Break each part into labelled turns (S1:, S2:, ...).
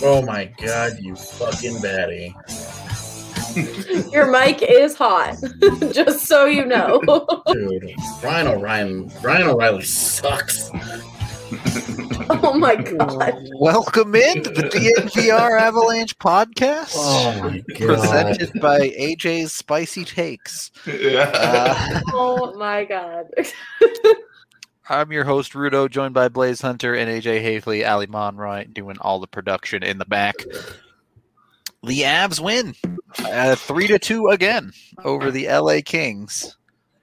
S1: Oh my god, you fucking baddie.
S2: Your mic is hot, just so you know.
S1: Dude, Ryan O'Reilly sucks.
S2: Oh my god.
S3: Welcome into the DNVR Avalanche podcast.
S1: Oh my god.
S3: Presented by AJ's Spicy Takes.
S2: Oh my god.
S3: I'm your host, Rudo, joined by Blaze Hunter and AJ Hafley, Ali Monroy, doing all the production in the back. The Avs win 3-2 again over the LA Kings.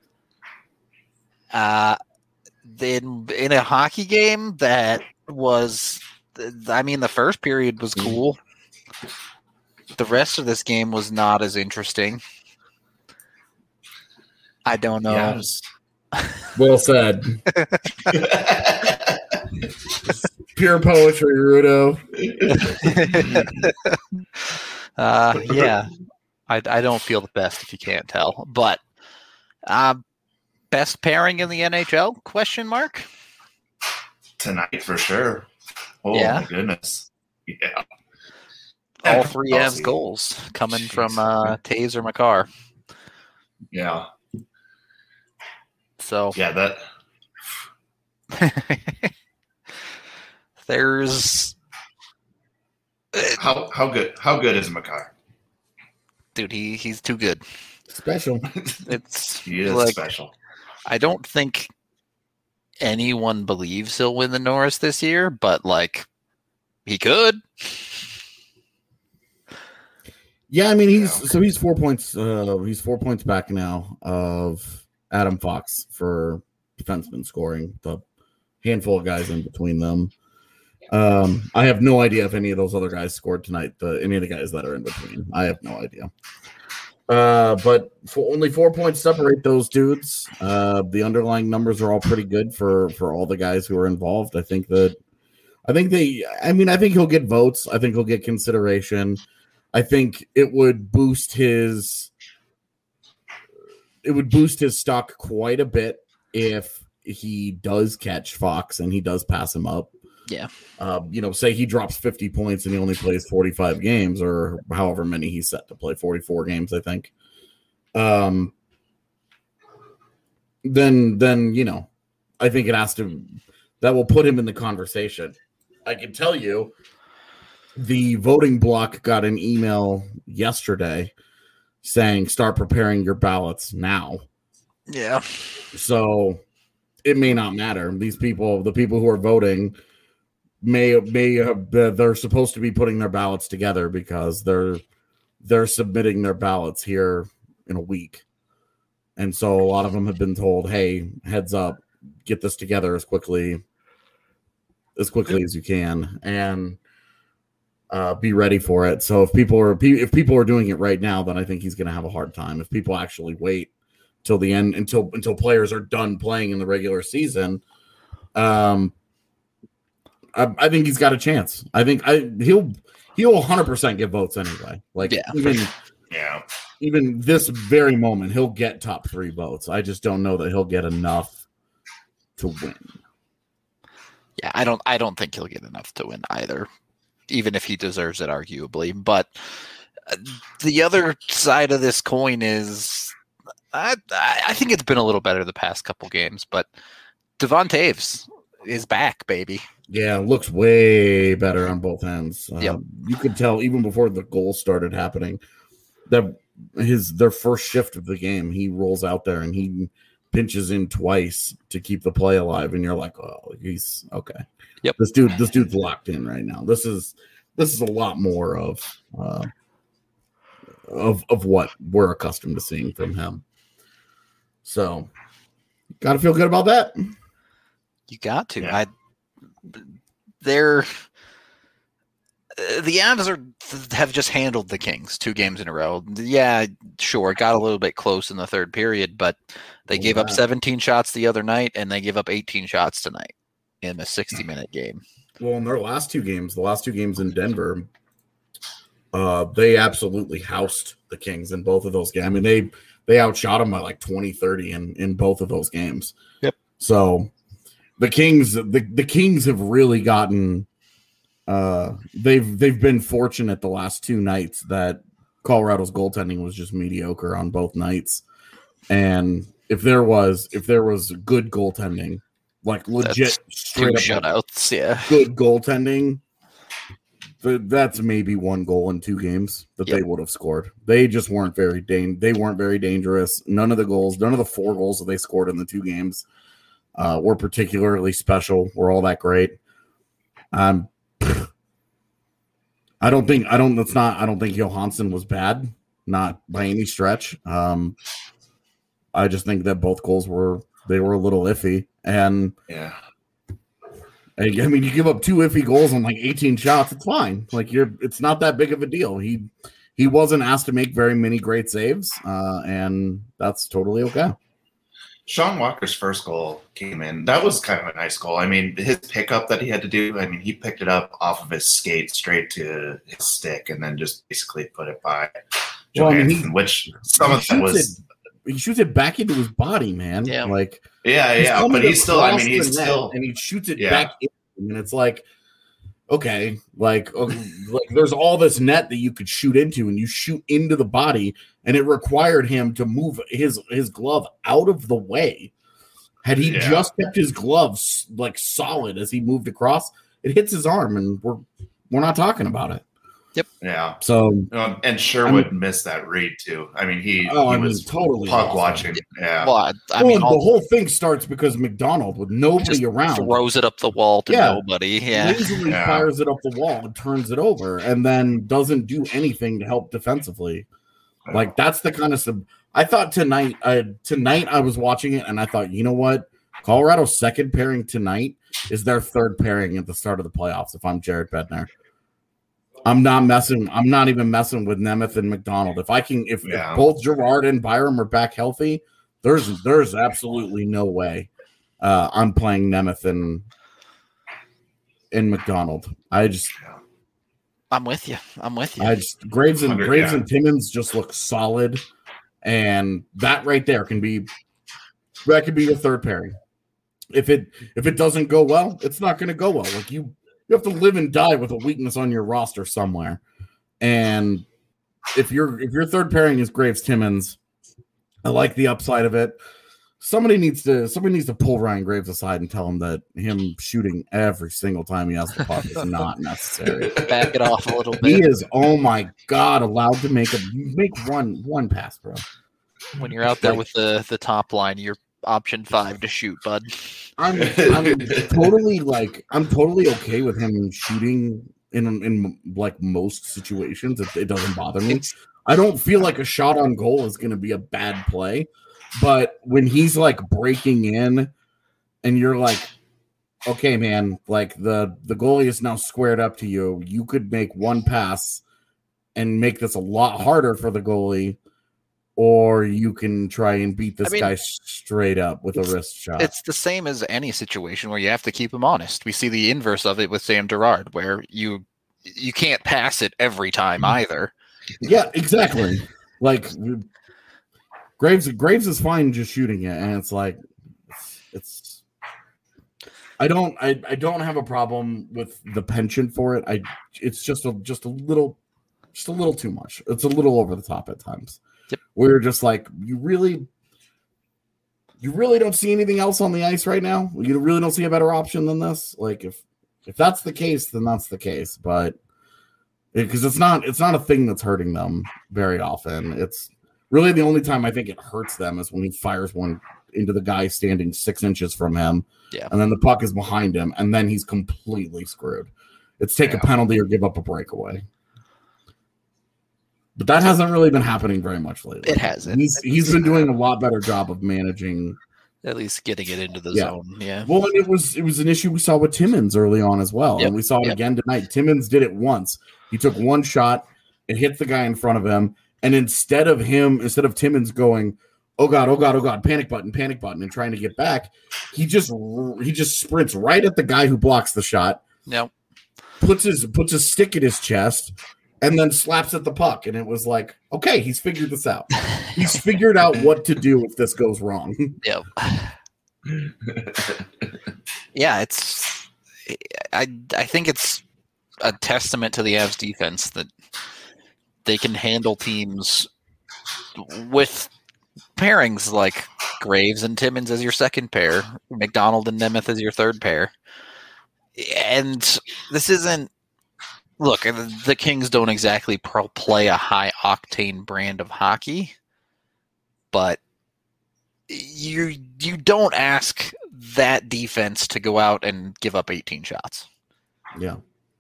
S3: In a hockey game that was, I mean, the first period was cool. The rest of this game was not as interesting. I don't know.
S1: Yes. Well said. Pure poetry, Rudo.
S3: Yeah. I don't feel the best if you can't tell. But best pairing in the NHL? Question mark?
S4: Tonight for sure. Oh
S3: Yeah.
S4: my goodness. Yeah.
S3: All three Avs goals coming from Taves or Makar.
S4: Yeah.
S3: So
S4: Yeah, that
S3: there's
S4: how good is Makar?
S3: dude, he's too good.
S1: Special.
S3: It's
S4: He is
S3: like,
S4: special.
S3: I don't think anyone believes he'll win the Norris this year, but like he could.
S1: Yeah, I mean he's 4 points. He's 4 points back now of Adam Fox for defenseman scoring. The handful of guys in between them. I have no idea if any of those other guys scored tonight. Any of the guys that are in between, I have no idea. But only 4 points separate those dudes. The underlying numbers are all pretty good for all the guys who are involved. I think he'll get votes. I think he'll get consideration. I think it would boost his stock quite a bit if he does catch Fox and he does pass him up.
S3: Yeah.
S1: Say he drops 50 points and he only plays 45 games or however many he's set to play, 44 games, I think. Then I think that will put him in the conversation. I can tell you the voting block got an email yesterday saying start preparing your ballots now.
S3: Yeah. So
S1: it may not matter. The people who are voting may have, they're supposed to be putting their ballots together because they're submitting their ballots here in a week. And so a lot of them have been told, hey, heads up, get this together as quickly as you can and be ready for it. So if people are doing it right now, then I think he's going to have a hard time. If people actually wait till the end, until players are done playing in the regular season, I think he's got a chance. I think he'll 100% get votes anyway. Like even this very moment, he'll get top 3 votes. I just don't know that he'll get enough to win.
S3: Yeah, I don't think he'll get enough to win either, even if he deserves it, arguably. But the other side of this coin is, I think it's been a little better the past couple games, but Devon Taves is back, baby.
S1: Yeah, looks way better on both ends.
S3: Yep.
S1: You could tell even before the goals started happening that their first shift of the game, he rolls out there and he pinches in twice to keep the play alive, and you're like, oh, he's okay.
S3: Yep.
S1: This dude's locked in right now. This is a lot more of what we're accustomed to seeing from him. So, got to feel good about that.
S3: You got to.
S4: Yeah.
S3: The Avs have just handled the Kings 2 games in a row. Yeah, sure, it got a little bit close in the third period, but they gave up 17 shots the other night, and they gave up 18 shots tonight in a 60-minute game.
S1: Well, in their last 2 games, the last 2 games in Denver, they absolutely housed the Kings in both of those games. I mean, they outshot them by like 20-30 in both of those games.
S3: Yep.
S1: So the Kings have really gotten they've been fortunate the last two nights that Colorado's goaltending was just mediocre on both nights. And if there was good goaltending, like legit straight up
S3: shutouts,
S1: good goaltending, that's maybe one goal in two games that they would have scored. They just weren't very dangerous. None of the 4 goals that they scored in the 2 games were particularly special, were all that great. I don't think Johansson was bad, not by any stretch. I just think that both goals were a little iffy, and I mean, you give up 2 iffy goals on like 18 shots, it's fine. Like it's not that big of a deal. He wasn't asked to make very many great saves, and that's totally okay.
S4: Sean Walker's first goal came in. That was kind of a nice goal. I mean, his pickup that he had to do, I mean, he picked it up off of his skate straight to his stick and then just basically put it by Johansson, which some of that was...
S1: He shoots it back into his body, man.
S3: Yeah.
S1: Like,
S4: but he's still, I mean, he's still...
S1: And he shoots it back in, and it's like, okay, like there's all this net that you could shoot into, and you shoot into the body, and it required him to move his glove out of the way. Had he just kept his gloves like solid as he moved across, it hits his arm, and we're not talking about it.
S3: Yep.
S4: Yeah.
S1: So
S4: and Sherwood missed that read too. I mean, he was
S1: totally
S4: puck watching. Yeah.
S3: Well, I mean,
S1: the whole thing starts because McDonald, with nobody around,
S3: throws it up the wall to nobody. Yeah.
S1: Lazily fires it up the wall and turns it over, and then doesn't do anything to help defensively. Like that's the kind of stuff. I thought tonight I was watching it, and I thought, you know what, Colorado's second pairing tonight is their third pairing at the start of the playoffs. If I'm Jared Bednar. I'm not even messing with Nemeth and McDonald. If both Gerard and Byram are back healthy, there's absolutely no way I'm playing Nemeth and McDonald.
S3: I'm with you.
S1: Graves and Timmins just look solid, and that right there could be your third pairing. If it doesn't go well, it's not going to go well. Like you have to live and die with a weakness on your roster somewhere. And if your third pairing is Graves Timmins, I like the upside of it. Somebody needs to pull Ryan Graves aside and tell him that him shooting every single time he has the puck is not necessary.
S3: Back it off a little bit.
S1: He is, oh my God, allowed to make one pass, bro.
S3: When you're out there with the top line, you're option 5 to shoot, bud.
S1: I'm totally okay with him shooting in like most situations. It doesn't bother me. I don't feel like a shot on goal is going to be a bad play, but when he's like breaking in, and you're like, okay, man, like the goalie is now squared up to you. You could make one pass and make this a lot harder for the goalie. Or you can try and beat this guy straight up with a wrist shot.
S3: It's the same as any situation where you have to keep him honest. We see the inverse of it with Sam Girard, where you can't pass it every time either.
S1: Yeah, exactly. Like Graves is fine just shooting it, and it's like it's. I don't have a problem with the penchant for it. It's just a little too much. It's a little over the top at times.
S3: Yep.
S1: We're just like, you really don't see anything else on the ice right now? You really don't see a better option than this? Like if that's the case, then that's the case. But because it's not a thing that's hurting them very often. It's really the only time I think it hurts them is when he fires one into the guy standing 6 inches from him.
S3: Yeah. And
S1: then the puck is behind him, and then he's completely screwed. It's take a penalty or give up a breakaway. But that hasn't really been happening very much lately.
S3: It hasn't.
S1: He's been doing a lot better job of managing,
S3: at least getting it into the zone. Yeah.
S1: Well, and it was an issue we saw with Timmins early on as well, and we saw it again tonight. Timmins did it once. He took one shot, it hit the guy in front of him, and instead of Timmins going, oh God, panic button, and trying to get back, he just sprints right at the guy who blocks the shot.
S3: No.
S1: Puts his stick in his chest. And then slaps at the puck, and it was like, okay, he's figured this out. He's figured out what to do if this goes wrong.
S3: Yep. Yeah, I think it's a testament to the Avs defense that they can handle teams with pairings like Graves and Timmins as your second pair, McDonald and Nemeth as your third pair. And this isn't, look, the Kings don't exactly play a high octane brand of hockey, but you don't ask that defense to go out and give up 18 shots.
S1: Yeah.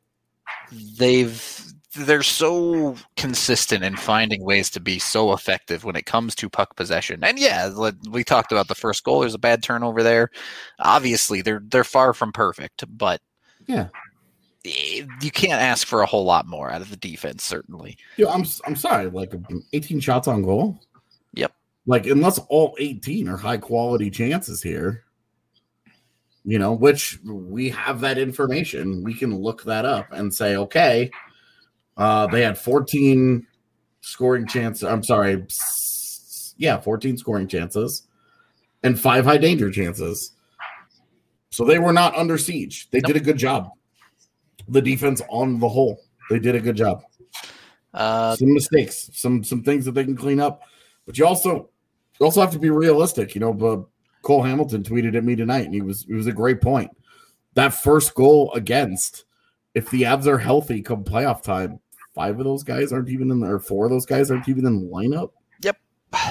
S3: They're so consistent in finding ways to be so effective when it comes to puck possession. And yeah, we talked about the first goal. There's a bad turnover there. Obviously, they're far from perfect, but
S1: yeah,
S3: you can't ask for a whole lot more out of the defense, certainly.
S1: Yeah, I'm sorry, like 18 shots on goal.
S3: Yep.
S1: Like, unless all 18 are high quality chances here, which we have that information, we can look that up and say, okay, they had 14 scoring chances. I'm sorry. Yeah, 14 scoring chances and 5 high danger chances. So they were not under siege. They did a good job. The defense on the whole, they did a good job. Some mistakes, some things that they can clean up. But you also have to be realistic. But Cole Hamilton tweeted at me tonight, and it was a great point. That first goal against, if the Avs are healthy come playoff time, 5 of those guys aren't even in there, or 4 of those guys aren't even in the lineup.
S3: Yep.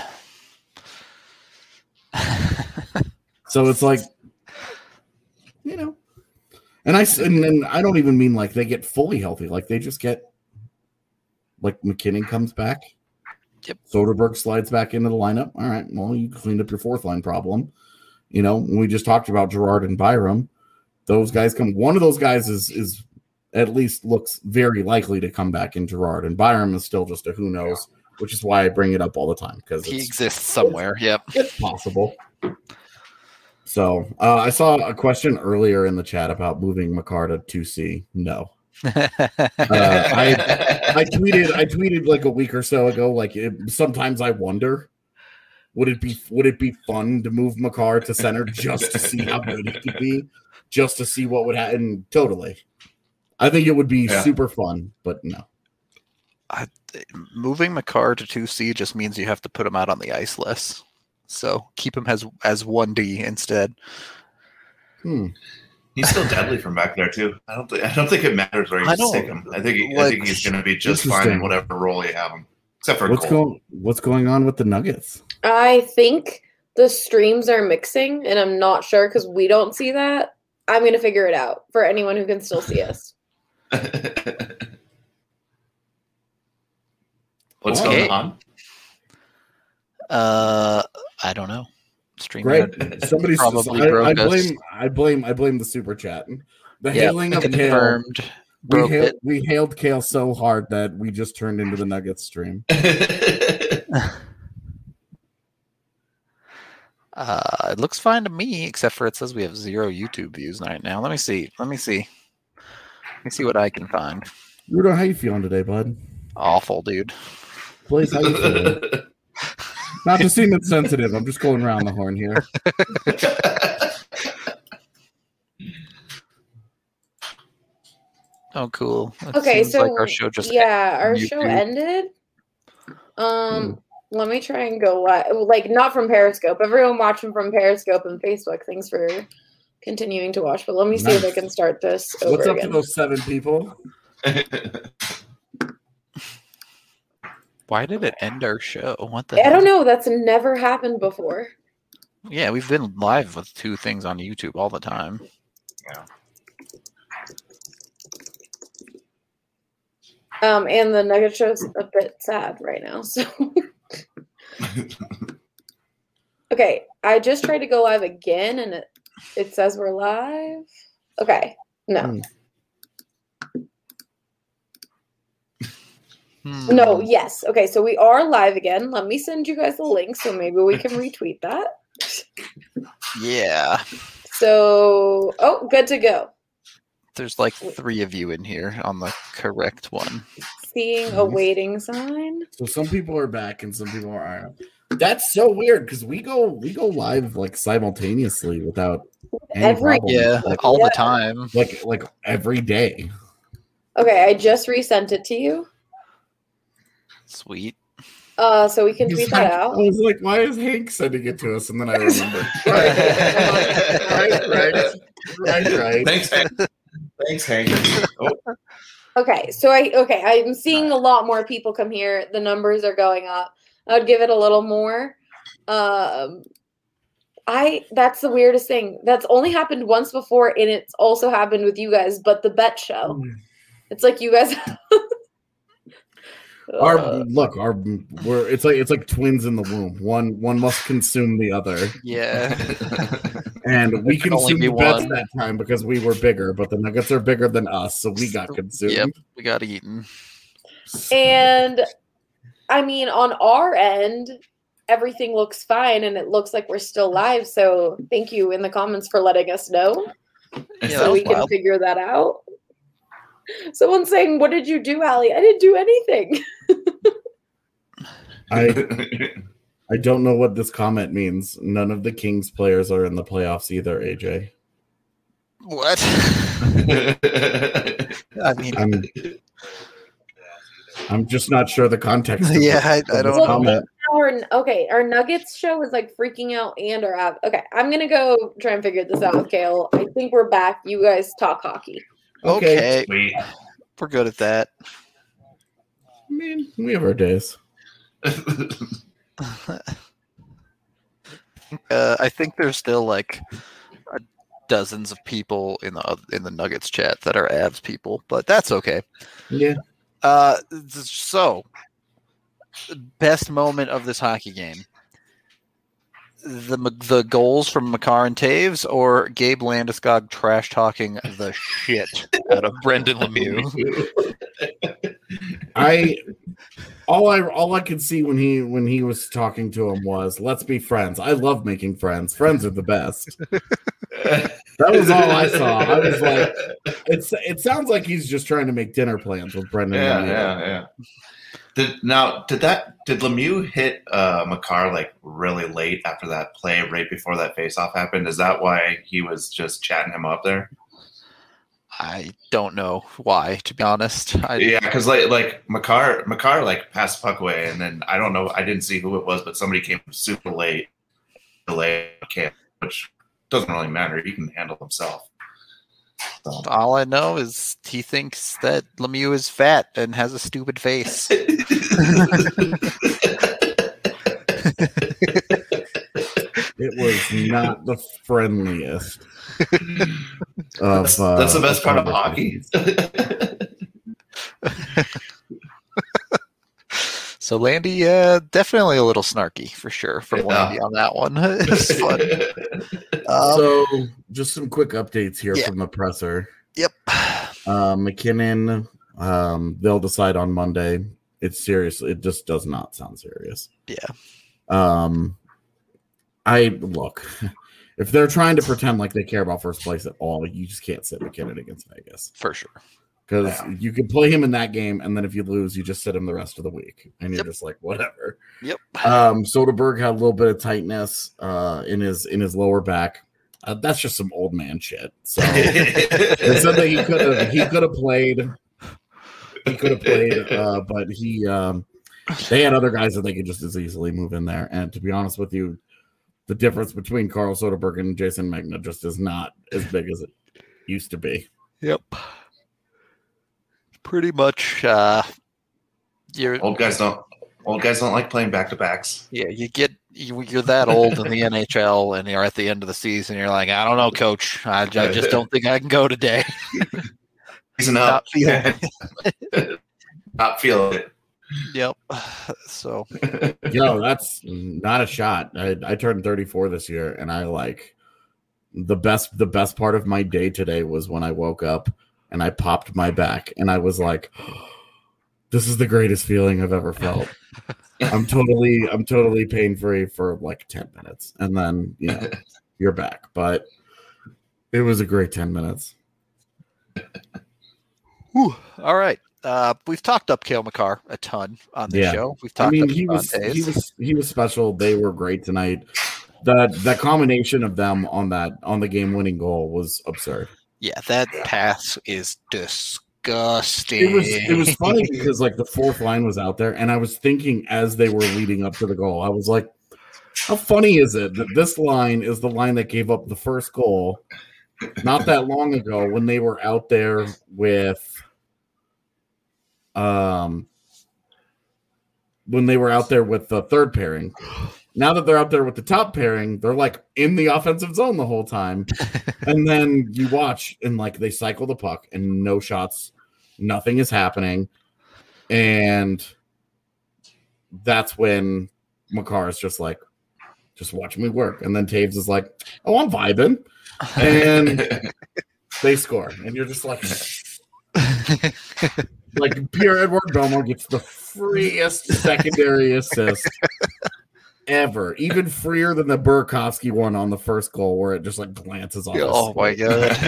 S1: So it's like, and I don't even mean like they get fully healthy. Like they just get, like McKinnon comes back.
S3: Yep.
S1: Soderberg slides back into the lineup. All right. Well, you cleaned up your fourth line problem. We just talked about Girard and Byram. Those guys come. One of those guys is at least looks very likely to come back in Girard, and Byram is still just a who knows, which is why I bring it up all the time because
S3: he exists somewhere. Yep.
S1: It's possible. So I saw a question earlier in the chat about moving Makar to 2C. No. I tweeted like a week or so ago. Like sometimes I wonder, would it be fun to move Makar to center just to see how good it could be, just to see what would happen? Totally, I think it would be super fun, but no.
S3: Moving Makar to 2C just means you have to put him out on the ice less. So keep him as 1D instead.
S4: He's still deadly from back there too. I don't think it matters where you stick him. I think he's going to be just fine in whatever role you have him, except for
S1: what's going on with the Nuggets.
S2: I think the streams are mixing, and I'm not sure because we don't see that. I'm going to figure it out for anyone who can still see us.
S4: What's going on?
S3: I don't know. Stream
S1: right. Somebody probably broke us. I blame the super chat. The hailing of Kale. We hailed Kale so hard that we just turned into the Nuggets stream.
S3: It looks fine to me, except for it says we have 0 YouTube views right now. Let me see what I can find.
S1: Rudo, how you feeling today, bud?
S3: Awful, dude.
S1: Blaze, how you feeling? Not to seem insensitive, I'm just going around the horn here.
S3: Oh, cool.
S2: Okay, so
S3: like our show just
S2: our show ended. Let me try and go like not from Periscope. Everyone watching from Periscope and Facebook. Thanks for continuing to watch. But let me see if I can start this over
S1: What's up
S2: again.
S1: to those 7 people?
S3: Why did it end our show? What the
S2: I don't know. That's never happened before.
S3: Yeah, we've been live with 2 things on YouTube all the time.
S4: Yeah.
S2: And the Nugget show's a bit sad right now. So okay, I just tried to go live again and it says we're live. Okay. No. No, yes. Okay, so we are live again. Let me send you guys the link so maybe we can retweet that.
S3: Yeah.
S2: So, good to go.
S3: There's like 3 of you in here on the correct one.
S2: Seeing a waiting sign.
S1: So some people are back and some people aren't. That's so weird because we go live like simultaneously without any problem.
S3: All the time.
S1: Like every day.
S2: Okay, I just resent it to you.
S3: Sweet.
S2: So we can tweet
S1: He's
S2: that
S1: like-
S2: out.
S1: I was like, why is Hank sending it to us? And then I remembered. Right.
S4: Thanks, Hank. Thanks, Hank. Oh,
S2: Okay, so I'm seeing a lot more people come here. The numbers are going up. I would give it a little more. That's the weirdest thing. That's only happened once before, and it's also happened with you guys, but the bet show. It's like you guys
S1: it's like twins in the womb. One must consume the other.
S3: Yeah.
S1: And we
S3: There can only
S1: consumed
S3: be
S1: the bets
S3: one.
S1: that time because we were bigger, but the Nuggets are bigger than us, so we got consumed.
S3: Yep, we got eaten.
S2: And I mean, on our end, everything looks fine and it looks like we're still live. So thank you in the comments for letting us know
S3: Yeah, that
S2: so
S3: was
S2: we can
S3: wild.
S2: figure that out. Someone's saying, "What did you do, Allie?" I didn't do anything.
S1: I don't know what this comment means. None of the Kings players are in the playoffs either, AJ.
S3: What? I mean,
S1: I'm just not sure the context. Of
S3: yeah, I
S1: of
S3: don't
S1: this
S3: know.
S1: comment.
S2: Our Nuggets show is like freaking out and our app. Okay, I'm gonna go try and figure this out with Kale. I think we're back. You guys talk hockey.
S3: Okay,
S4: sweet.
S3: we're good at that.
S1: I mean, we have our days.
S3: I think there's still like dozens of people in the Nuggets chat that are Avs people, but that's okay.
S1: Yeah.
S3: So, best moment of this hockey game: the goals from Makar and Taves, or Gabe Landeskog trash talking the shit out of Brendan Lemieux?
S1: All I could see when he was talking to him was, "Let's be friends. I love making friends. Friends are the best." That was all I saw. I was like, it sounds like he's just trying to make dinner plans with Brendan.
S4: Yeah. Did Lemieux hit Makar like really late after that play, right before that faceoff happened? Is that why he was just chatting him up there?
S3: I don't know why, to be honest.
S4: Yeah, because like Makar like passed the puck away, and then I don't know, I didn't see who it was, but somebody came super late, which doesn't really matter. He can handle himself. So.
S3: All I know is he thinks that Lemieux is fat and has a stupid face.
S1: It was not the friendliest.
S4: That's the best part of hockey.
S3: So Landy, definitely a little snarky for sure from Landy on that one. It's fun.
S1: So just some quick updates here
S3: Yeah.
S1: from the presser.
S3: Yep.
S1: McKinnon, they'll decide on Monday. It's serious. It just does not sound serious.
S3: Yeah.
S1: Look, if they're trying to pretend like they care about first place at all, you just can't sit McKinnon against Vegas.
S3: For sure.
S1: Because you can play him in that game, and then if you lose, you just sit him the rest of the week, and you're just like, whatever.
S3: Yep.
S1: Soderberg had a little bit of tightness in his lower back. That's just some old man shit. So it said that he could have played. He could have played, but they had other guys that they could just as easily move in there. And to be honest with you, the difference between Carl Soderberg and Jason Magna just is not as big as it used to be.
S3: Yep. Pretty much.
S4: Old guys don't like playing back to backs.
S3: Yeah, you're that old in the NHL, and you're at the end of the season. You're like, I don't know, coach. I just don't think I can go today.
S4: Season up.
S3: Not feeling it.
S4: Not feeling it.
S3: Yep. So.
S1: That's not a shot. I turned 34 this year, and I like the best part of my day today was when I woke up and I popped my back, and I was like, this is the greatest feeling I've ever felt. I'm totally pain free for like 10 minutes, and then you're back. But it was a great 10 minutes.
S3: Whew. All right. We've talked up Cale Makar a ton on this show. We've talked up
S1: he was special. They were great tonight. The combination of them on the game winning goal was absurd.
S3: Yeah, that pass is disgusting. disgusting.
S1: It was funny because like the fourth line was out there, and I was thinking as they were leading up to the goal, I was like, how funny is it that this line is the line that gave up the first goal not that long ago when they were out there with the third pairing. Now that they're out there with the top pairing, they're like in the offensive zone the whole time. And then you watch and like they cycle the puck and no shots, nothing is happening. And that's when Makar is just like, just watch me work. And then Taves is like, oh, I'm vibing. And they score. And you're just like, like Pierre-Edouard Bellemare gets the freest secondary assist ever, even freer than the Burakovsky one on the first goal where it just like glances off.
S3: Oh my god.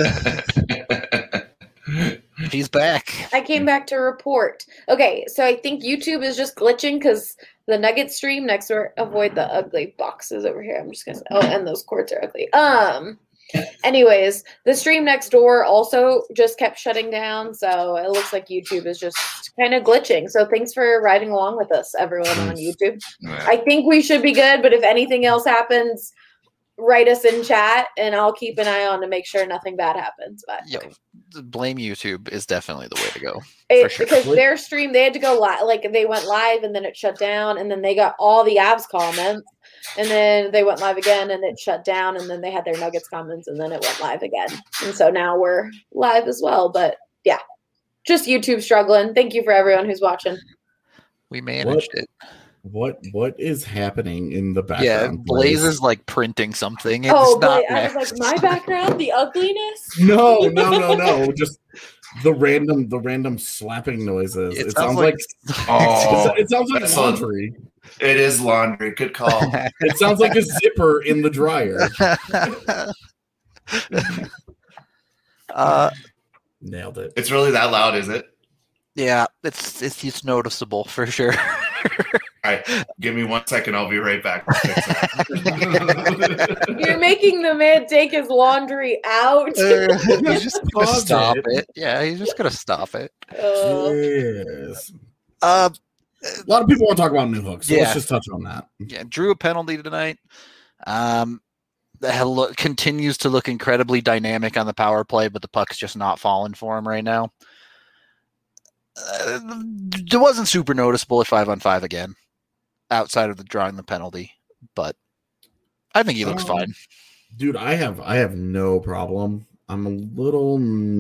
S3: Yeah. He's back.
S2: I came back to report. Okay, so I think YouTube is just glitching because the Nugget stream next door. Avoid the ugly boxes over here. I'm just gonna. Oh, and those cords are ugly. Anyways, the stream next door also just kept shutting down, so it looks like YouTube is just kind of glitching. So thanks for riding along with us, everyone on YouTube. I think we should be good, but if anything else happens, write us in chat, and I'll keep an eye on to make sure nothing bad happens. But
S3: blame YouTube is definitely the way to go.
S2: Sure. Because their stream, they had to go live, like they went live and then it shut down, and then they got all the Avs comments, and then they went live again and it shut down, and then they had their Nuggets comments, and then it went live again. And so now we're live as well. But yeah, just YouTube struggling. Thank you for everyone who's watching.
S3: We managed it.
S1: What is happening in the background?
S3: Yeah, Blaze is like printing something. It's
S2: I was like, my background, the ugliness.
S1: No. Just the random slapping noises. It sounds like it sounds like laundry.
S4: It is laundry. Good call.
S1: It sounds like a zipper in the dryer. Nailed it.
S4: It's really that loud, is it?
S3: Yeah, it's noticeable for sure.
S4: All right, give me 1 second. I'll be right back.
S2: You're making the man take his laundry out.
S3: He's just gonna stop it. Yeah, he's just gonna stop it.
S1: Yes. A lot of people want to talk about Newhook, so let's just touch on that.
S3: Yeah, drew a penalty tonight. Continues to look incredibly dynamic on the power play, but the puck's just not falling for him right now. It wasn't super noticeable at 5-on-5 again, outside of the drawing the penalty, but I think he looks fine.
S1: Dude, I have no problem. I'm a little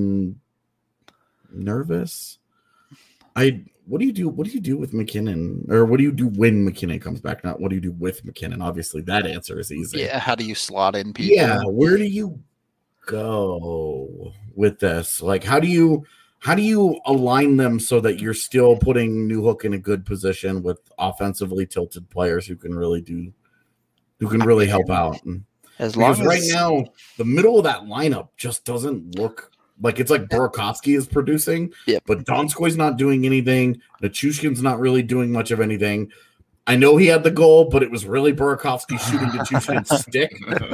S1: nervous. What do you do with McKinnon, or what do you do when McKinnon comes back? Not what do you do with McKinnon? Obviously, that answer is easy.
S3: Yeah, how do you slot in people?
S1: Yeah, where do you go with this? Like, how do you align them so that you're still putting Newhook in a good position with offensively tilted players who can really help out? Because right now, the middle of that lineup just doesn't look like it's like Burakovsky is producing, but Donskoy's not doing anything. Nichushkin's not really doing much of anything. I know he had the goal, but it was really Burakovsky shooting Nichushkin's stick.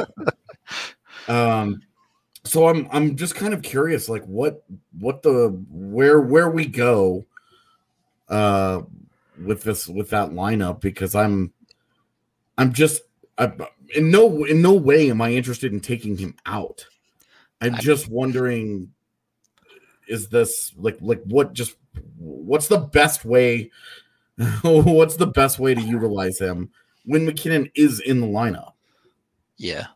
S1: So I'm just kind of curious, like where we go with that lineup, because I'm in no way am I interested in taking him out. I'm just wondering, is this like what's the best way? What's the best way to utilize him when McKinnon is in the lineup?
S3: Yeah.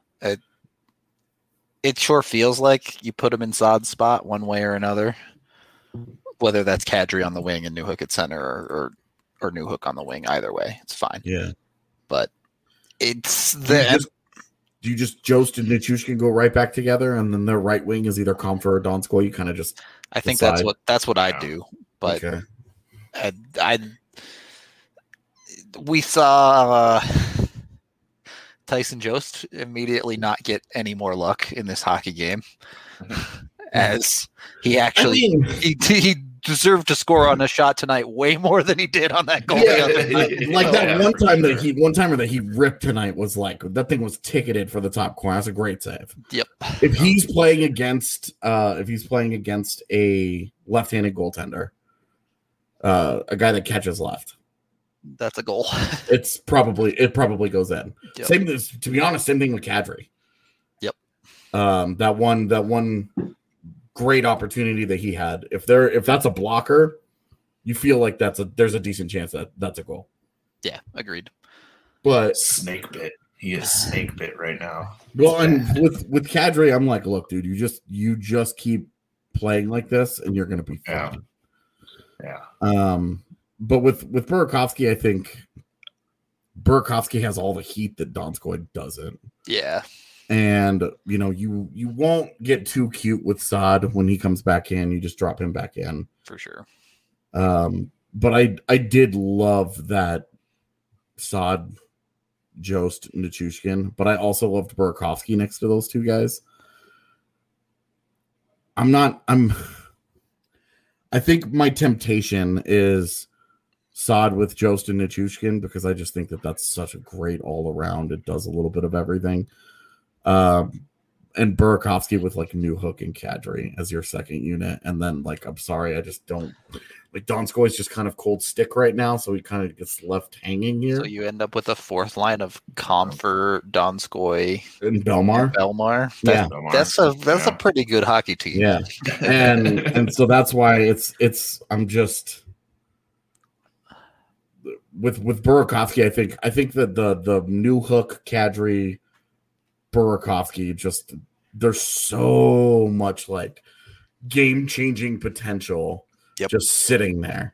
S3: It sure feels like you put him in Saad's spot one way or another, whether that's Kadri on the wing and Newhook at center or Newhook on the wing. Either way, it's fine.
S1: Yeah.
S3: But it's
S1: do you just Jost and Nichushkin go right back together, and then their right wing is either Comfer or Donskoy? You kind of just
S3: I think
S1: decide.
S3: that's what I do. But
S1: okay.
S3: We saw Tyson Jost immediately not get any more luck in this hockey game, as he actually he deserved to score on a shot tonight way more than he did on that goal.
S1: One timer that he ripped tonight was like that thing was ticketed for the top corner. That's a great save.
S3: Yep.
S1: If he's playing against a left-handed goaltender, a guy that catches left.
S3: That's a goal.
S1: It probably goes in.
S3: Yep.
S1: To be honest, same thing with Kadri.
S3: Yep.
S1: That one great opportunity that he had. If that's a blocker, you feel like there's a decent chance that that's a goal.
S3: Yeah, agreed.
S1: But
S4: Snake bit. He is snake bit right now.
S1: well, and with Kadri, I'm like, look, dude, you just keep playing like this, and you're gonna be fine.
S4: Yeah.
S1: But with Burakovsky, I think Burakovsky has all the heat that Donskoy doesn't.
S3: Yeah.
S1: And you won't get too cute with Saad when he comes back in. You just drop him back in
S3: For sure.
S1: But I did love that Saad, Jost, Nichushkin, but I also loved Burakovsky next to those two guys. I think my temptation is Saad with Jost and Nichushkin because I just think that that's such a great all around. It does a little bit of everything. And Burakovsky with like Newhook and Kadri as your second unit. And then I'm sorry, I just don't like Donskoy's just kind of cold stick right now. So he kind of gets left hanging here.
S3: So you end up with a fourth line of Comfort, Donskoy,
S1: and Belmar.
S3: That's a pretty good hockey team.
S1: Yeah. And so that's why I'm just with Burakovsky, I think that the Newhook, Kadri, Burakovsky, just there's so much like game-changing potential just sitting there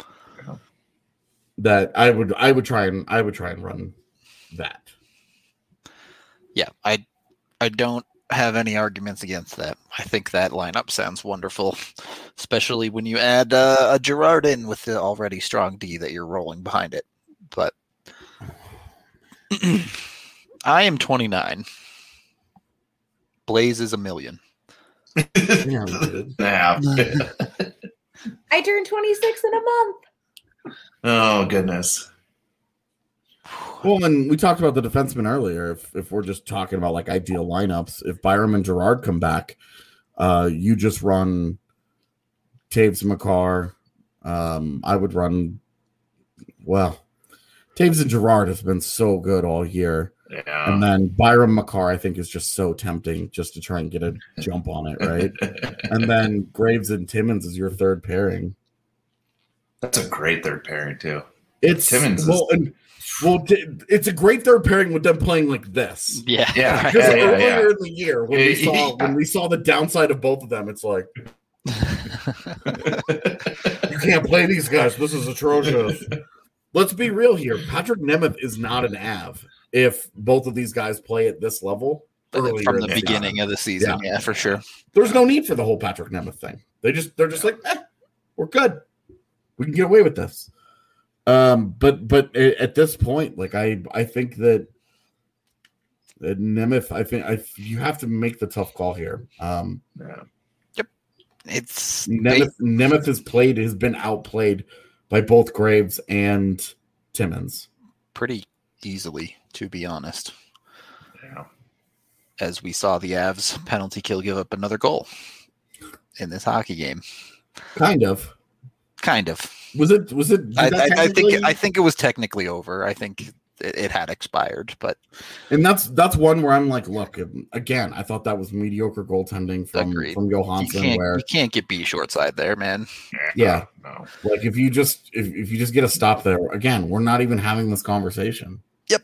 S1: that I would try and run that.
S3: Yeah, I don't have any arguments against that. I think that lineup sounds wonderful, especially when you add a Girard in with the already strong D that you're rolling behind it. But I am 29. Blaze is 1 million.
S4: Yeah.
S2: I turned 26 in a month.
S4: Oh, goodness.
S1: Well, and we talked about the defensemen earlier. If we're just talking about like ideal lineups, if Byram and Girard come back, you just run Taves and Makar. I would run, Taves and Girard has been so good all year.
S4: Yeah.
S1: And then Byram Makar, I think, is just so tempting just to try and get a jump on it, right? And then Graves and Timmins is your third pairing.
S4: That's a great third pairing, too.
S1: It's
S4: Timmins
S1: it's a great third pairing with them playing like this.
S3: Yeah.
S1: Because earlier in the year, when we saw the downside of both of them, it's like you can't play these guys. This is atrocious. Let's be real here. Patrick Nemeth is not an Av if both of these guys play at this level
S3: from the beginning of the season. Yeah, for sure.
S1: There's no need for the whole Patrick Nemeth thing. They're just like, we're good. We can get away with this. But at this point, like I think that Nemeth, you have to make the tough call here.
S3: Yep.
S1: Nemeth has been outplayed by both Graves and Timmins
S3: pretty easily, to be honest.
S4: Yeah.
S3: As we saw the Avs penalty kill give up another goal in this hockey game.
S1: Kind of. Was it?
S3: I think it was technically over. I think it had expired, but
S1: that's one where I'm like, look, again, I thought that was mediocre goaltending from Johansson.
S3: You can't get B short side there, man.
S1: Yeah,
S4: no.
S1: Like if you just get a stop there, again, we're not even having this conversation.
S3: Yep.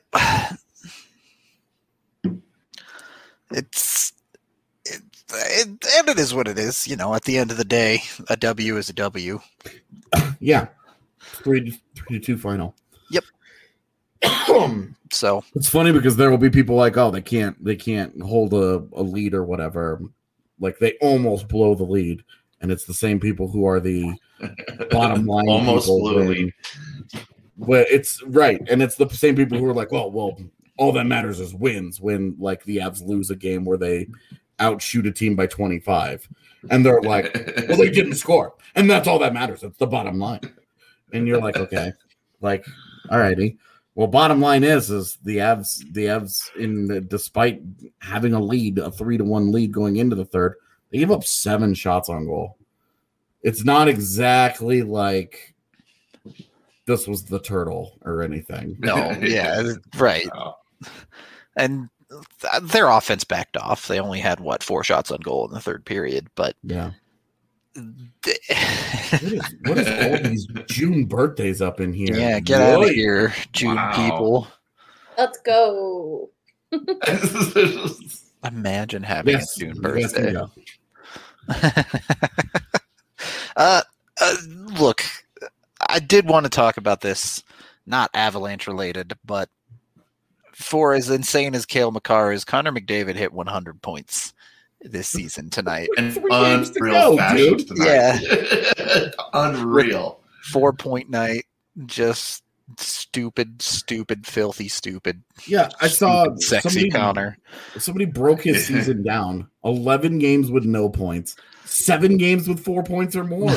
S3: And it is what it is. At the end of the day, a W is a W.
S1: Yeah. 3-2 final.
S3: Yep. So
S1: it's funny because there will be people like, oh, they can't hold a lead or whatever. Like they almost blow the lead, and it's the same people who are the bottom line.
S4: Almost blew a lead.
S1: But it's right, and it's the same people who are like, well, all that matters is wins. When like the Avs lose a game where they outshoot a team by 25, and they're like, well, they didn't score, and that's all that matters. It's the bottom line. And you're like, okay, like, all righty. Well, bottom line is the Avs despite having a lead, a 3-1 lead going into the third, they gave up 7 shots on goal. It's not exactly like this was the turtle or anything.
S3: No, yeah, right.
S4: Oh.
S3: And their offense backed off. They only had 4 shots on goal in the third period, but
S1: Yeah. What is all these June birthdays up in here?
S3: yeah, get out of
S1: Right.
S3: here, June people.
S2: Let's go.
S3: Imagine having
S1: Yes,
S3: a June
S1: you guys can
S3: birthday.
S1: go.
S3: Look, I did want to talk about this, not Avalanche related, but for as insane as Cale Makar is, Connor McDavid hit 100 points this season tonight.
S4: An
S1: 3 games to
S4: unreal
S1: go,
S4: fashion
S1: dude.
S4: tonight. Unreal.
S3: 4-point night, just stupid, filthy, stupid.
S1: Yeah, I saw
S3: Sexy Connor.
S1: Somebody broke his season down. 11 games with no points. 7 games with 4 points or more.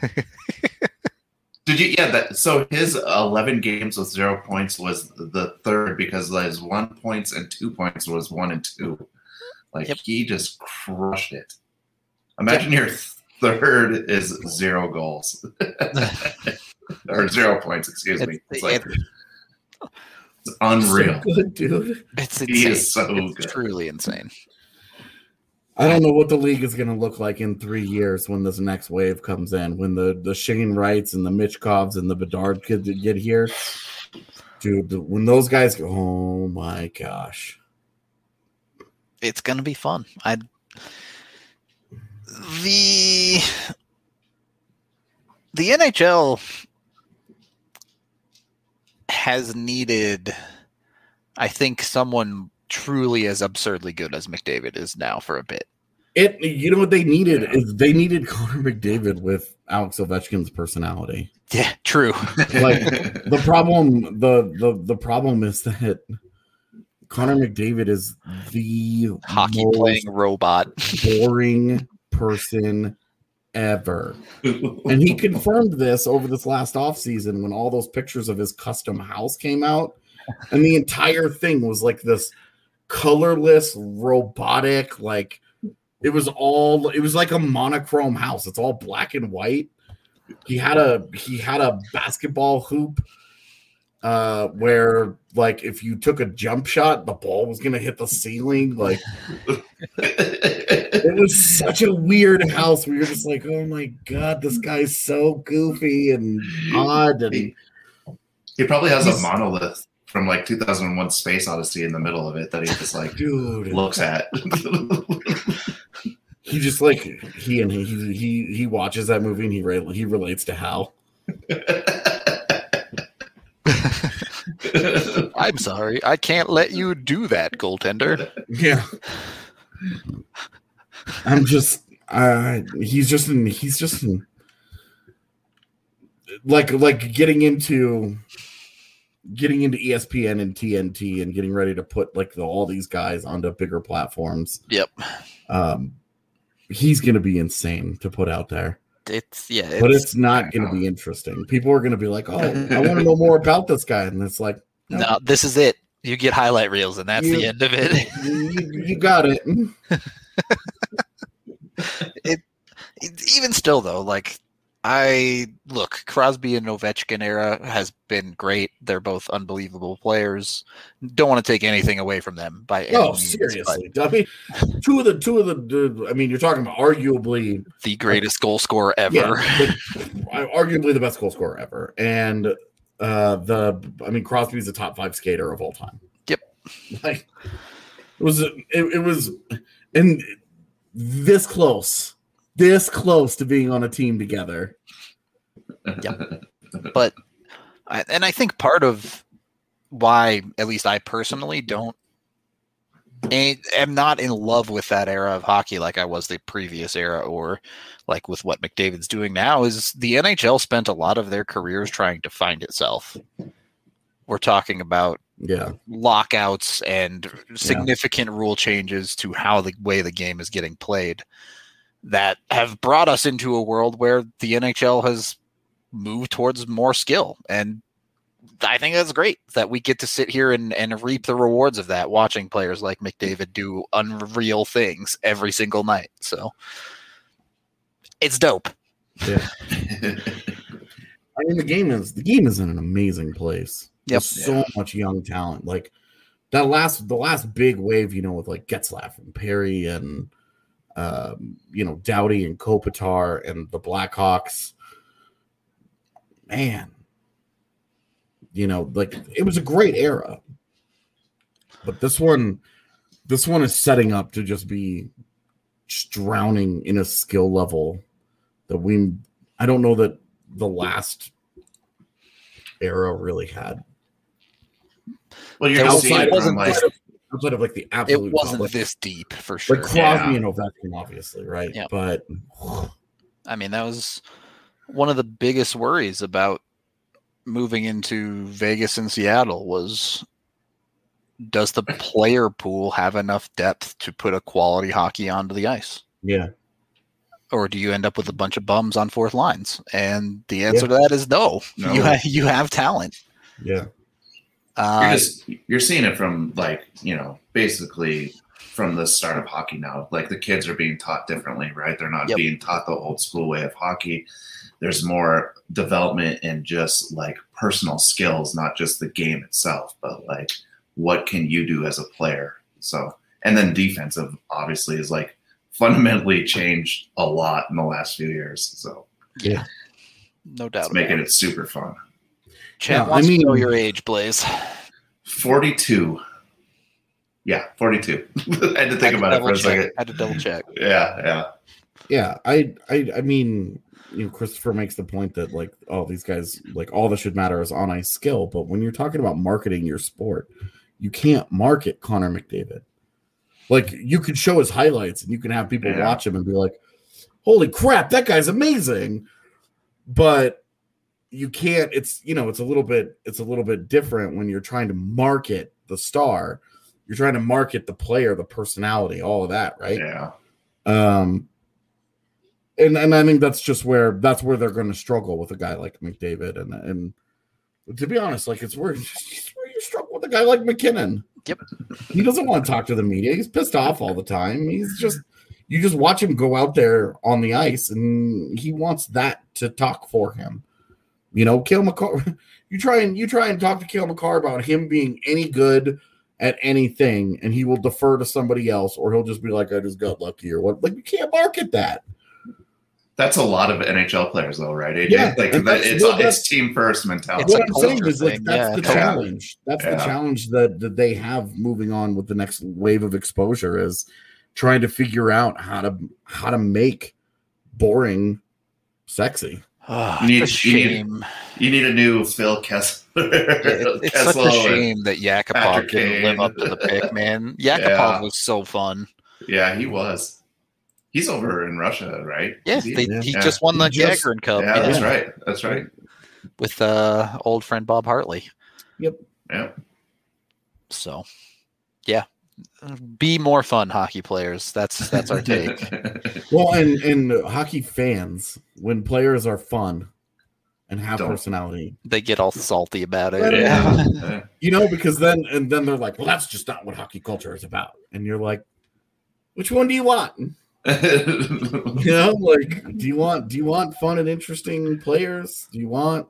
S4: Did you? Yeah. So his 11 games with 0 points was the third because his 1 points and 2 points was 1 and 2. Like he just crushed it. Imagine your third is 0 goals or 0 points. Excuse me. It's like it's unreal.
S1: So good, dude.
S3: It's insane.
S4: He is so
S3: it's
S4: good.
S3: truly insane.
S1: I don't know what the league is going to look like in 3 years when this next wave comes in. When the Shane Wrights and the Mitchkovs and the Bedard kids get here. Dude, when those guys go, oh my gosh.
S3: It's going to be fun. The NHL has needed, I think, someone truly as absurdly good as McDavid is now for a bit.
S1: You know what they needed is they needed Connor McDavid with Alex Ovechkin's personality.
S3: Yeah, true.
S1: Like the problem is that Connor McDavid is the
S3: Hockey
S1: most
S3: playing robot.
S1: boring person ever. And he confirmed this over this last offseason when all those pictures of his custom house came out. And the entire thing was like this colorless, robotic, like it was like a monochrome house. It's all black and white. He had a basketball hoop where like if you took a jump shot, the ball was gonna hit the ceiling. Like it was such a weird house where you're just like, oh my god, this guy's so goofy and odd. And
S4: he probably has a monolith from like 2001 Space Odyssey in the middle of it that he just like
S1: dude
S4: looks at.
S1: He just like he watches that movie and he relates to Hal.
S3: I'm sorry, I can't let you do that, goaltender.
S1: Yeah. I'm just he's just in like getting into ESPN and TNT and getting ready to put like all these guys onto bigger platforms.
S3: Yep.
S1: He's going to be insane to put out there.
S3: But
S1: it's not going to be interesting. People are going to be like, "Oh, I want to know more about this guy," and it's like,
S3: no, this is it. You get highlight reels, and that's the end of it.
S1: You got it.
S3: Even still, though, like Crosby and Ovechkin era has been great. They're both unbelievable players. Don't want to take anything away from them by any means,
S1: seriously. I mean, two of the. I mean, you're talking about arguably
S3: the greatest goal scorer ever.
S1: Yeah, arguably the best goal scorer ever, and Crosby's a top 5 skater of all time.
S3: Yep.
S1: Like it was, and this close to being on a team together.
S3: Yep. But I think part of why, at least I personally am not in love with that era of hockey like I was the previous era, or like with what McDavid's doing now, is the NHL spent a lot of their careers trying to find itself. We're talking about lockouts and significant rule changes to how the way the game is getting played that have brought us into a world where the NHL has moved towards more skill. And I think that's great that we get to sit here and reap the rewards of that, watching players like McDavid do unreal things every single night. So it's dope.
S1: Yeah. I mean, the game is in an amazing place.
S3: Yep.
S1: There's so much young talent. Like the last big wave, with like Getzlaff and Perry and Doughty and Kopitar and the Blackhawks. Man, like it was a great era. But this one is setting up to just be drowning in a skill level that I don't know that the last era really had.
S4: Well, you're seeing it from
S1: outside of like the absolute.
S3: It wasn't
S1: top,
S3: this deep for sure.
S1: Like Crosby and Ovechkin, obviously, right?
S3: Yeah.
S1: But
S3: I mean, that was one of the biggest worries about moving into Vegas and Seattle was, does the player pool have enough depth to put a quality hockey onto the ice?
S1: Yeah.
S3: Or do you end up with a bunch of bums on fourth lines? And the answer to that is no. You have talent.
S1: Yeah.
S4: You're seeing it from basically from the start of hockey now. Like the kids are being taught differently, right? They're not being taught the old school way of hockey. There's more development in just like personal skills, not just the game itself, but like what can you do as a player? So, and then defensive obviously is like fundamentally changed a lot in the last few years. So
S1: yeah,
S3: no doubt.
S4: It's making it super fun.
S3: Chad wants to know your age, Blaze.
S4: 42. Yeah, 42. I had to think about it for a second.
S3: I had to double check.
S4: Yeah.
S1: I mean, Christopher makes the point that like, oh, these guys, like all that should matter is on ice skill. But when you're talking about marketing your sport, you can't market Connor McDavid. Like you could show his highlights and you can have people watch him and be like, holy crap, that guy's amazing. But you can't, it's a little bit different when you're trying to market the star. You're trying to market the player, the personality, all of that, right?
S4: Yeah.
S1: And I think that's where they're going to struggle with a guy like McDavid, and to be honest, like it's where you struggle with a guy like McKinnon.
S3: Yep.
S1: He doesn't want to talk to the media. He's pissed off all the time. You just watch him go out there on the ice, and he wants that to talk for him. Cale Makar. You try and talk to Cale Makar about him being any good at anything, and he will defer to somebody else, or he'll just be like, "I just got lucky," or what. Like you can't market that.
S4: That's a lot of NHL players, though, right, AJ?
S1: Yeah,
S4: it's team first mentality.
S1: What I'm saying is, like, that's the challenge. That's the challenge that they have moving on with the next wave of exposure is trying to figure out how to make boring sexy.
S3: You need
S4: a new Phil Kessler.
S3: It's such a shame that Yakupov didn't live up to the pick, man. Yakupov was so fun.
S4: Yeah, he was. He's over in Russia, right?
S3: Yeah, he just won the Gagarin Cup.
S4: Yeah, that's right.
S3: With old friend Bob Hartley.
S1: Yep.
S4: Yeah.
S3: So, yeah. Be more fun, hockey players. That's our take.
S1: Well, and hockey fans, when players are fun and have personality,
S3: they get all salty about it.
S1: Yeah. Because then they're like, well, that's just not what hockey culture is about. And you're like, which one do you want? Like, do you want fun and interesting players? Do you want,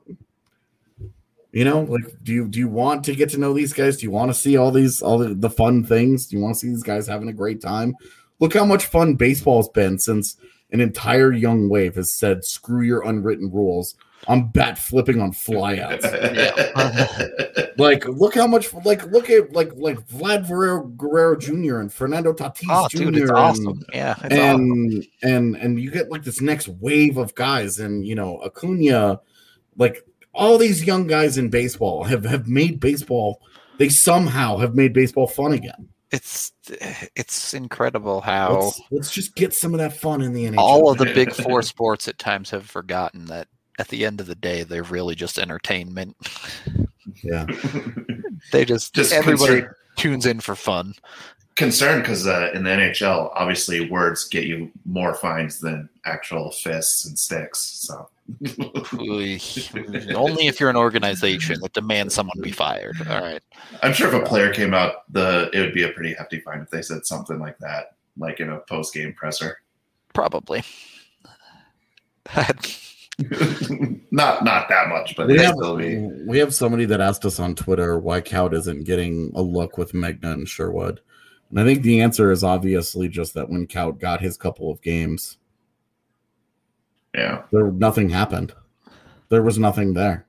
S1: like, do you want to get to know these guys? Do you want to see all the fun things? Do you want to see these guys having a great time? Look how much fun baseball's been since an entire young wave has said, screw your unwritten rules. I'm bat flipping on flyouts. Like, look how much, look at Vlad Guerrero Jr. and Fernando Tatis Jr.
S3: Dude, it's awesome. It's awesome.
S1: And you get like this next wave of guys, and Acuna, like all these young guys in baseball have made baseball. They somehow have made baseball fun again.
S3: It's incredible how
S1: let's just get some of that fun in the NHL.
S3: All of the big four sports at times have forgotten that at the end of the day, they're really just entertainment.
S1: Yeah.
S3: They just everybody tunes in for fun.
S4: Concerned because in the NHL, obviously words get you more fines than actual fists and sticks. So
S3: only if you're an organization that demands someone be fired. All right.
S4: I'm sure if a player came out, it would be a pretty hefty fine if they said something like that, like in a post-game presser.
S3: Probably.
S4: not that much, but
S1: we have somebody that asked us on Twitter why Kaut isn't getting a look with Megna and Sherwood. And I think the answer is obviously just that when Kaut got his couple of games, nothing happened. There was nothing there.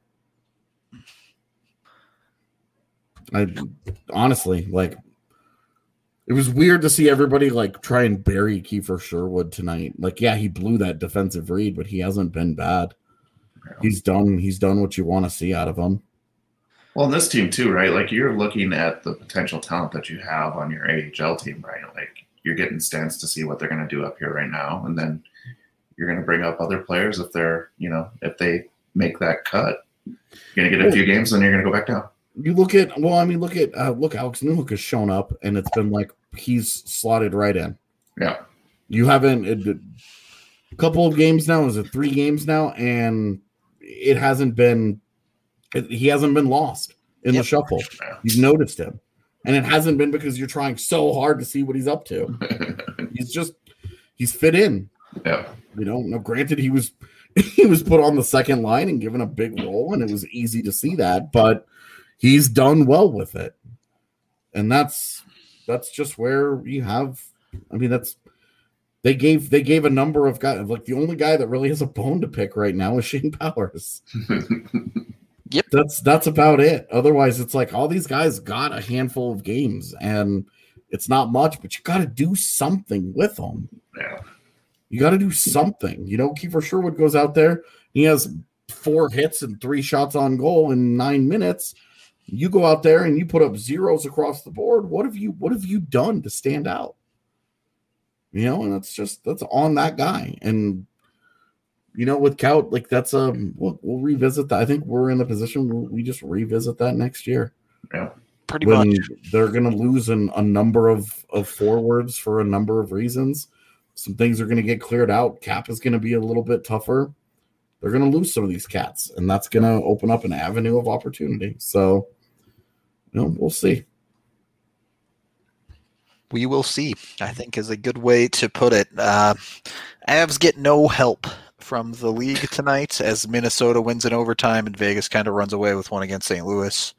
S1: I honestly, like, it was weird to see everybody like try and bury Kiefer Sherwood tonight. Like, yeah, he blew that defensive read, but he hasn't been bad. He's done what you want to see out of him.
S4: Well, in this team too, right? Like, you're looking at the potential talent that you have on your AHL team, right? Like, you're getting stats to see what they're going to do up here right now, and then you're going to bring up other players if they're, if they make that cut. You're going to get a few games, then you're going to go back down.
S1: You look at Alex Newhook has shown up, and it's been like he's slotted right in.
S4: Yeah,
S1: you haven't a couple of games now. Is it 3 games now? And it hasn't been. He hasn't been lost in the shuffle. You've noticed him, and it hasn't been because you're trying so hard to see what he's up to. he's fit in.
S4: Yeah,
S1: Now, granted, he was put on the second line and given a big role, and it was easy to see that, but he's done well with it. And that's just where you have. I mean, they gave a number of guys. Like, the only guy that really has a bone to pick right now is Shane Powers.
S3: Yep,
S1: that's about it. Otherwise, it's like all these guys got a handful of games, and it's not much, but you got to do something with them.
S4: Yeah,
S1: you got to do something. Kiefer Sherwood goes out there. He has 4 hits and 3 shots on goal in 9 minutes. You go out there and you put up zeros across the board. What have you done to stand out? And that's on that guy. And with Kaut, like, that's we'll revisit that. I think we're in the position where we just revisit that next year.
S4: Yeah,
S3: pretty much.
S1: They're going to lose a number of forwards for a number of reasons. Some things are going to get cleared out. Cap is going to be a little bit tougher. They're going to lose some of these cats, and that's going to open up an avenue of opportunity. So, we'll see.
S3: We will see, I think, is a good way to put it. Avs get no help from the league tonight as Minnesota wins in overtime and Vegas kind of runs away with one against St. Louis.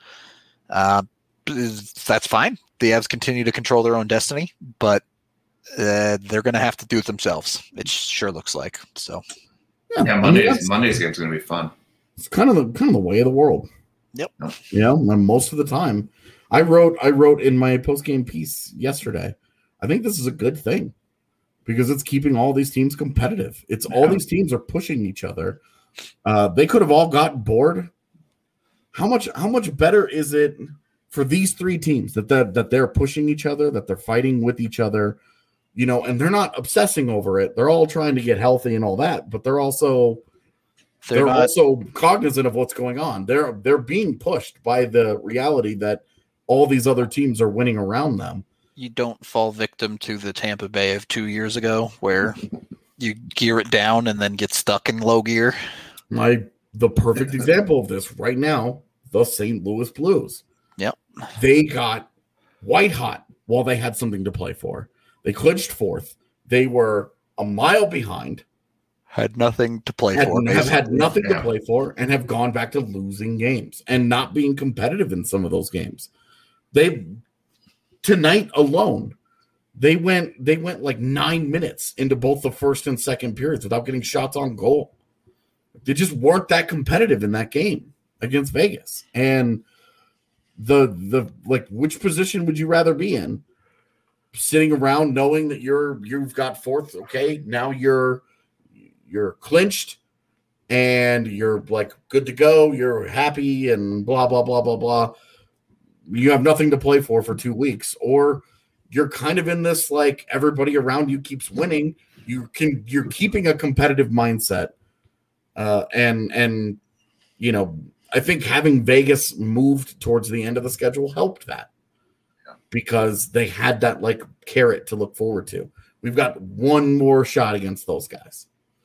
S3: That's fine. The Avs continue to control their own destiny, but they're going to have to do it themselves. It sure looks like. So,
S4: Monday's game's going to be fun.
S1: It's kind of the way of the world.
S3: Yep.
S1: Most of the time, I wrote in my post-game piece yesterday, I think this is a good thing because it's keeping all these teams competitive. It's all these teams are pushing each other. They could have all gotten bored. How much better is it for these 3 teams that they're pushing each other, that they're fighting with each other, and they're not obsessing over it. They're all trying to get healthy and all that, but they're also cognizant of what's going on. They're being pushed by the reality that all these other teams are winning around them.
S3: You don't fall victim to the Tampa Bay of 2 years ago where you gear it down and then get stuck in low gear.
S1: The perfect example of this right now, the St. Louis Blues.
S3: Yep.
S1: They got white hot while they had something to play for. They clinched 4th. They were a mile behind.
S3: Had nothing to play for.
S1: Have had nothing to play for and have gone back to losing games and not being competitive in some of those games. Tonight alone, they went like 9 minutes into both the first and second periods without getting shots on goal. They just weren't that competitive in that game against Vegas. And the which position would you rather be in? Sitting around knowing that you've got 4th, okay, now you're clinched and you're like good to go, you're happy and blah blah blah blah blah. You have nothing to play for 2 weeks, or you're kind of in this like everybody around you keeps winning. You're keeping a competitive mindset, and I think having Vegas moved towards the end of the schedule helped that because they had that like carrot to look forward to. We've got one more shot against those guys.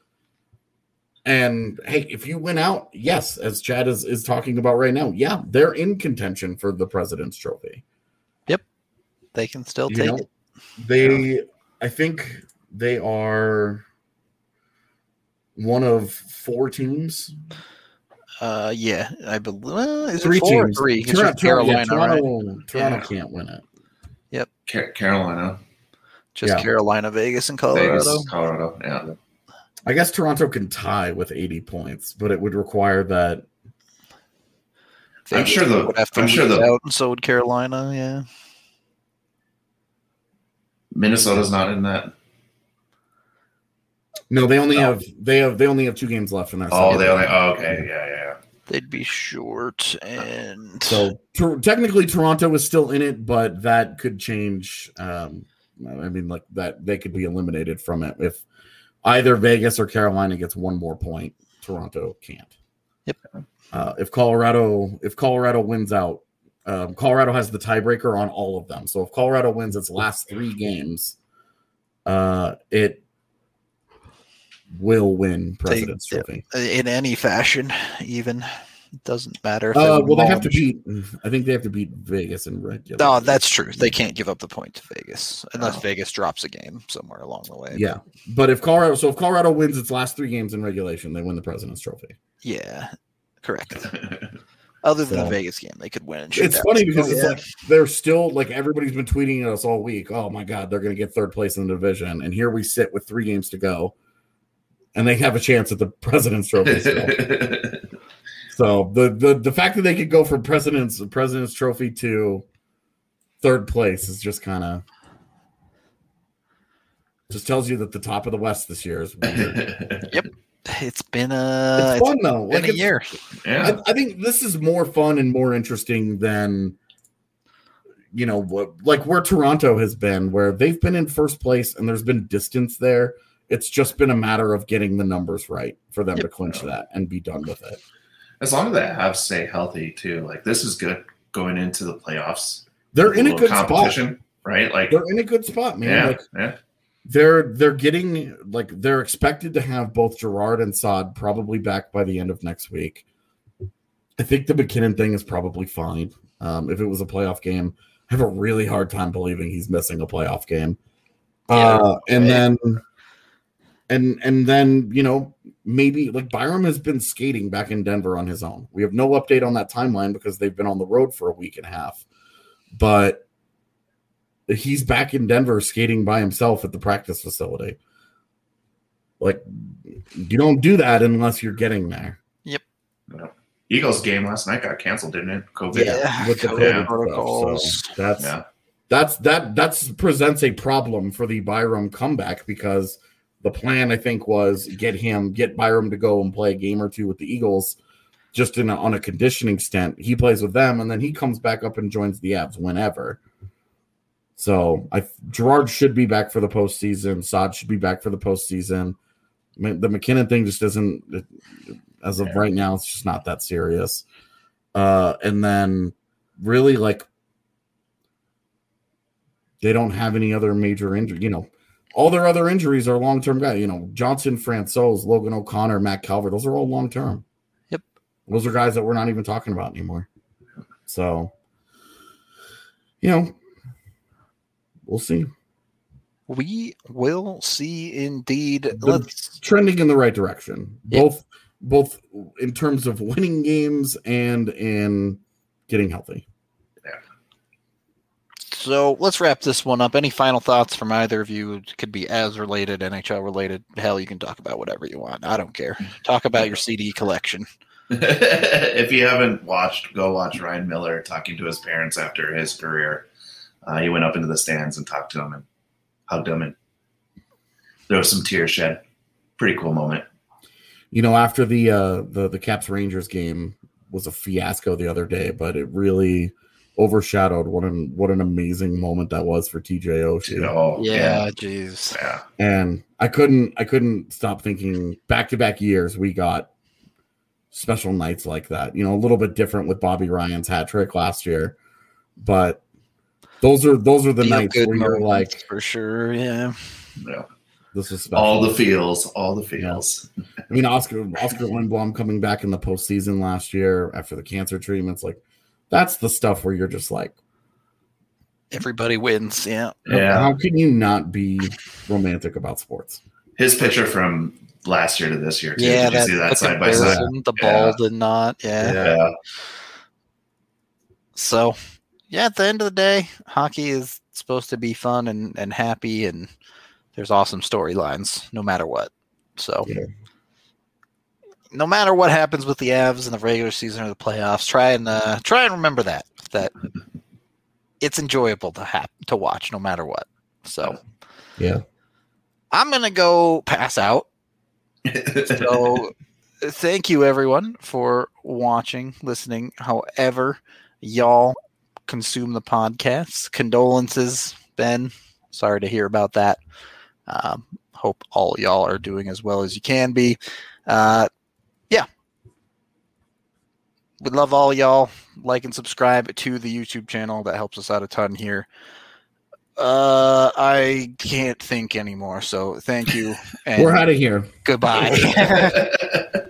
S1: And hey, if you win out, yes, as Chad is talking about right now, yeah, they're in contention for the President's Trophy.
S3: Yep. They can still take it.
S1: I think they are one of 4 teams.
S3: Yeah, I believe. Is
S1: 3
S3: it 4 or
S1: teams.
S3: 3? It's
S1: Toronto,
S3: just Carolina,
S1: Toronto,
S3: right?
S1: Toronto
S4: Yeah.
S1: can't win it.
S4: Carolina,
S3: Just
S1: Yeah.
S3: Carolina, Vegas, and Colorado.
S4: Vegas, Colorado. Yeah.
S1: I guess Toronto can tie with 80 points, but it would require that.
S4: I'm
S3: Vegas
S4: sure the-
S3: would have to
S4: I'm sure
S3: lose
S4: the-
S3: out, and so would Carolina. Yeah.
S4: Minnesota's not in that.
S1: No, they only have 2 games left in their.
S4: Oh,
S1: second
S4: they only.
S1: round.
S4: Oh, okay. Yeah.
S3: They'd be short, and
S1: So technically, Toronto is still in it, but that could change. I mean, like that they could be eliminated from it if either Vegas or Carolina gets 1 more point. Toronto can't.
S3: Yep.
S1: If Colorado wins out, Colorado has the tiebreaker on all of them. So if Colorado wins its last 3 games, it will win President's Trophy.
S3: in any fashion, even it doesn't matter. If
S1: Well, they have to
S3: beat.
S1: beat. I think they have to beat Vegas in regular.
S3: No, that's true. They can't give up the point to Vegas unless
S4: Oh.
S3: Vegas drops a game somewhere along the way.
S1: Yeah, but if Colorado wins its last 3 games in regulation, they win the President's Trophy.
S3: Yeah, correct. Other than
S1: So-
S3: the Vegas game, they could win. and shoot
S1: It's
S3: out.
S1: funny because
S3: Oh,
S1: it's
S3: yeah.
S1: like they're still like everybody's been tweeting at us all week. Oh my god, they're going to get 3rd place in the division, and here we sit with 3 games to go, and they have a chance at the President's Trophy. Still. So the fact that they could go from President's Trophy to 3rd place is just kind of just tells you that the top of the West this year is weird.
S3: It's been
S1: It's fun though.
S3: been
S1: Like
S3: a year.
S4: Yeah.
S1: I think this is more fun and more interesting than like where Toronto has been, where they've been in 1st place and there's been distance there. It's just been a matter of getting the numbers right for them to clinch that and be done with it.
S4: As long as the Avs stay healthy too, like this is good going into the playoffs.
S1: They're in a good spot.
S4: Right? Like
S1: They're in a good spot, man.
S4: yeah.
S1: They're getting they're expected to have both Gerard and Saad probably back by the end of next week. I think the McKinnon thing is probably fine. If it was a playoff game, I have a really hard time believing he's missing a playoff game. And then maybe like Byram has been skating back in Denver on his own. We have no update on that timeline because they've been on the road for a week and a half. But he's back in Denver skating by himself at the practice facility. Like, you don't do that unless you're getting there.
S4: Eagles game last night got canceled, didn't it? COVID.
S3: Yeah,
S1: With the
S3: COVID
S1: COVID
S3: protocols.
S1: stuff. So that's presents a problem for the Byram comeback because the plan, I think, was get Byram to go and play a game or 2 with the Eagles just on a conditioning stint. He plays with them, and then he comes back up and joins the Avs whenever. So Gerard should be back for the postseason. Saad should be back for the postseason. The McKinnon thing just isn't, as of right now, it's just not that serious. And then really, like, they don't have any other major injury. All their other injuries are long-term guys. Johnson, Francouz, Logan O'Connor, Matt Calvert. Those are all long-term.
S3: Yep.
S1: Those are guys that we're not even talking about anymore. So, we'll see.
S3: We will see indeed.
S1: Let's trending in the right direction. Both in terms of winning games and in getting healthy.
S3: So let's wrap this one up. Any final thoughts from either of you? It could be as related, NHL related. Hell, you can talk about whatever you want. I don't care. Talk about your CD collection.
S4: If you haven't watched, go watch Ryan Miller talking to his parents after his career. He went up into the stands and talked to them and hugged them, and there was some tears shed. Pretty cool moment.
S1: After the Caps Rangers game was a fiasco the other day, but it really overshadowed what an amazing moment that was for TJ Oshie.
S4: Oh,
S3: Yeah, jeez.
S4: Yeah.
S1: And I couldn't stop thinking back-to-back years we got special nights like that. A little bit different with Bobby Ryan's hat trick last year, but those are the nights where you're like,
S3: for sure, yeah.
S4: Yeah.
S1: this is special.
S4: All the feels.
S1: I mean, Oscar Lindblom coming back in the postseason last year after the cancer treatments, like that's the stuff where you're just like,
S3: Everybody wins, yeah.
S4: Yeah.
S1: How can you not be romantic about sports?
S4: His picture from last year to this year, too.
S3: Yeah,
S4: Did you see that
S3: the
S4: side by side?
S3: comparison, the bald and not.
S4: Yeah.
S3: So, yeah, at the end of the day, hockey is supposed to be fun and happy, and there's awesome storylines no matter what. So, no matter what happens with the Avs in the regular season or the playoffs, try and remember that it's enjoyable to watch no matter what. So,
S1: yeah,
S3: I'm gonna go pass out. So, thank you everyone for watching, listening. However, y'all consume the podcast. Condolences, Ben. Sorry to hear about that. Hope all y'all are doing as well as you can be. Yeah. We love all y'all. Like and subscribe to the YouTube channel. That helps us out a ton here. I can't think anymore, so thank you. And
S1: we're out of here.
S3: Goodbye.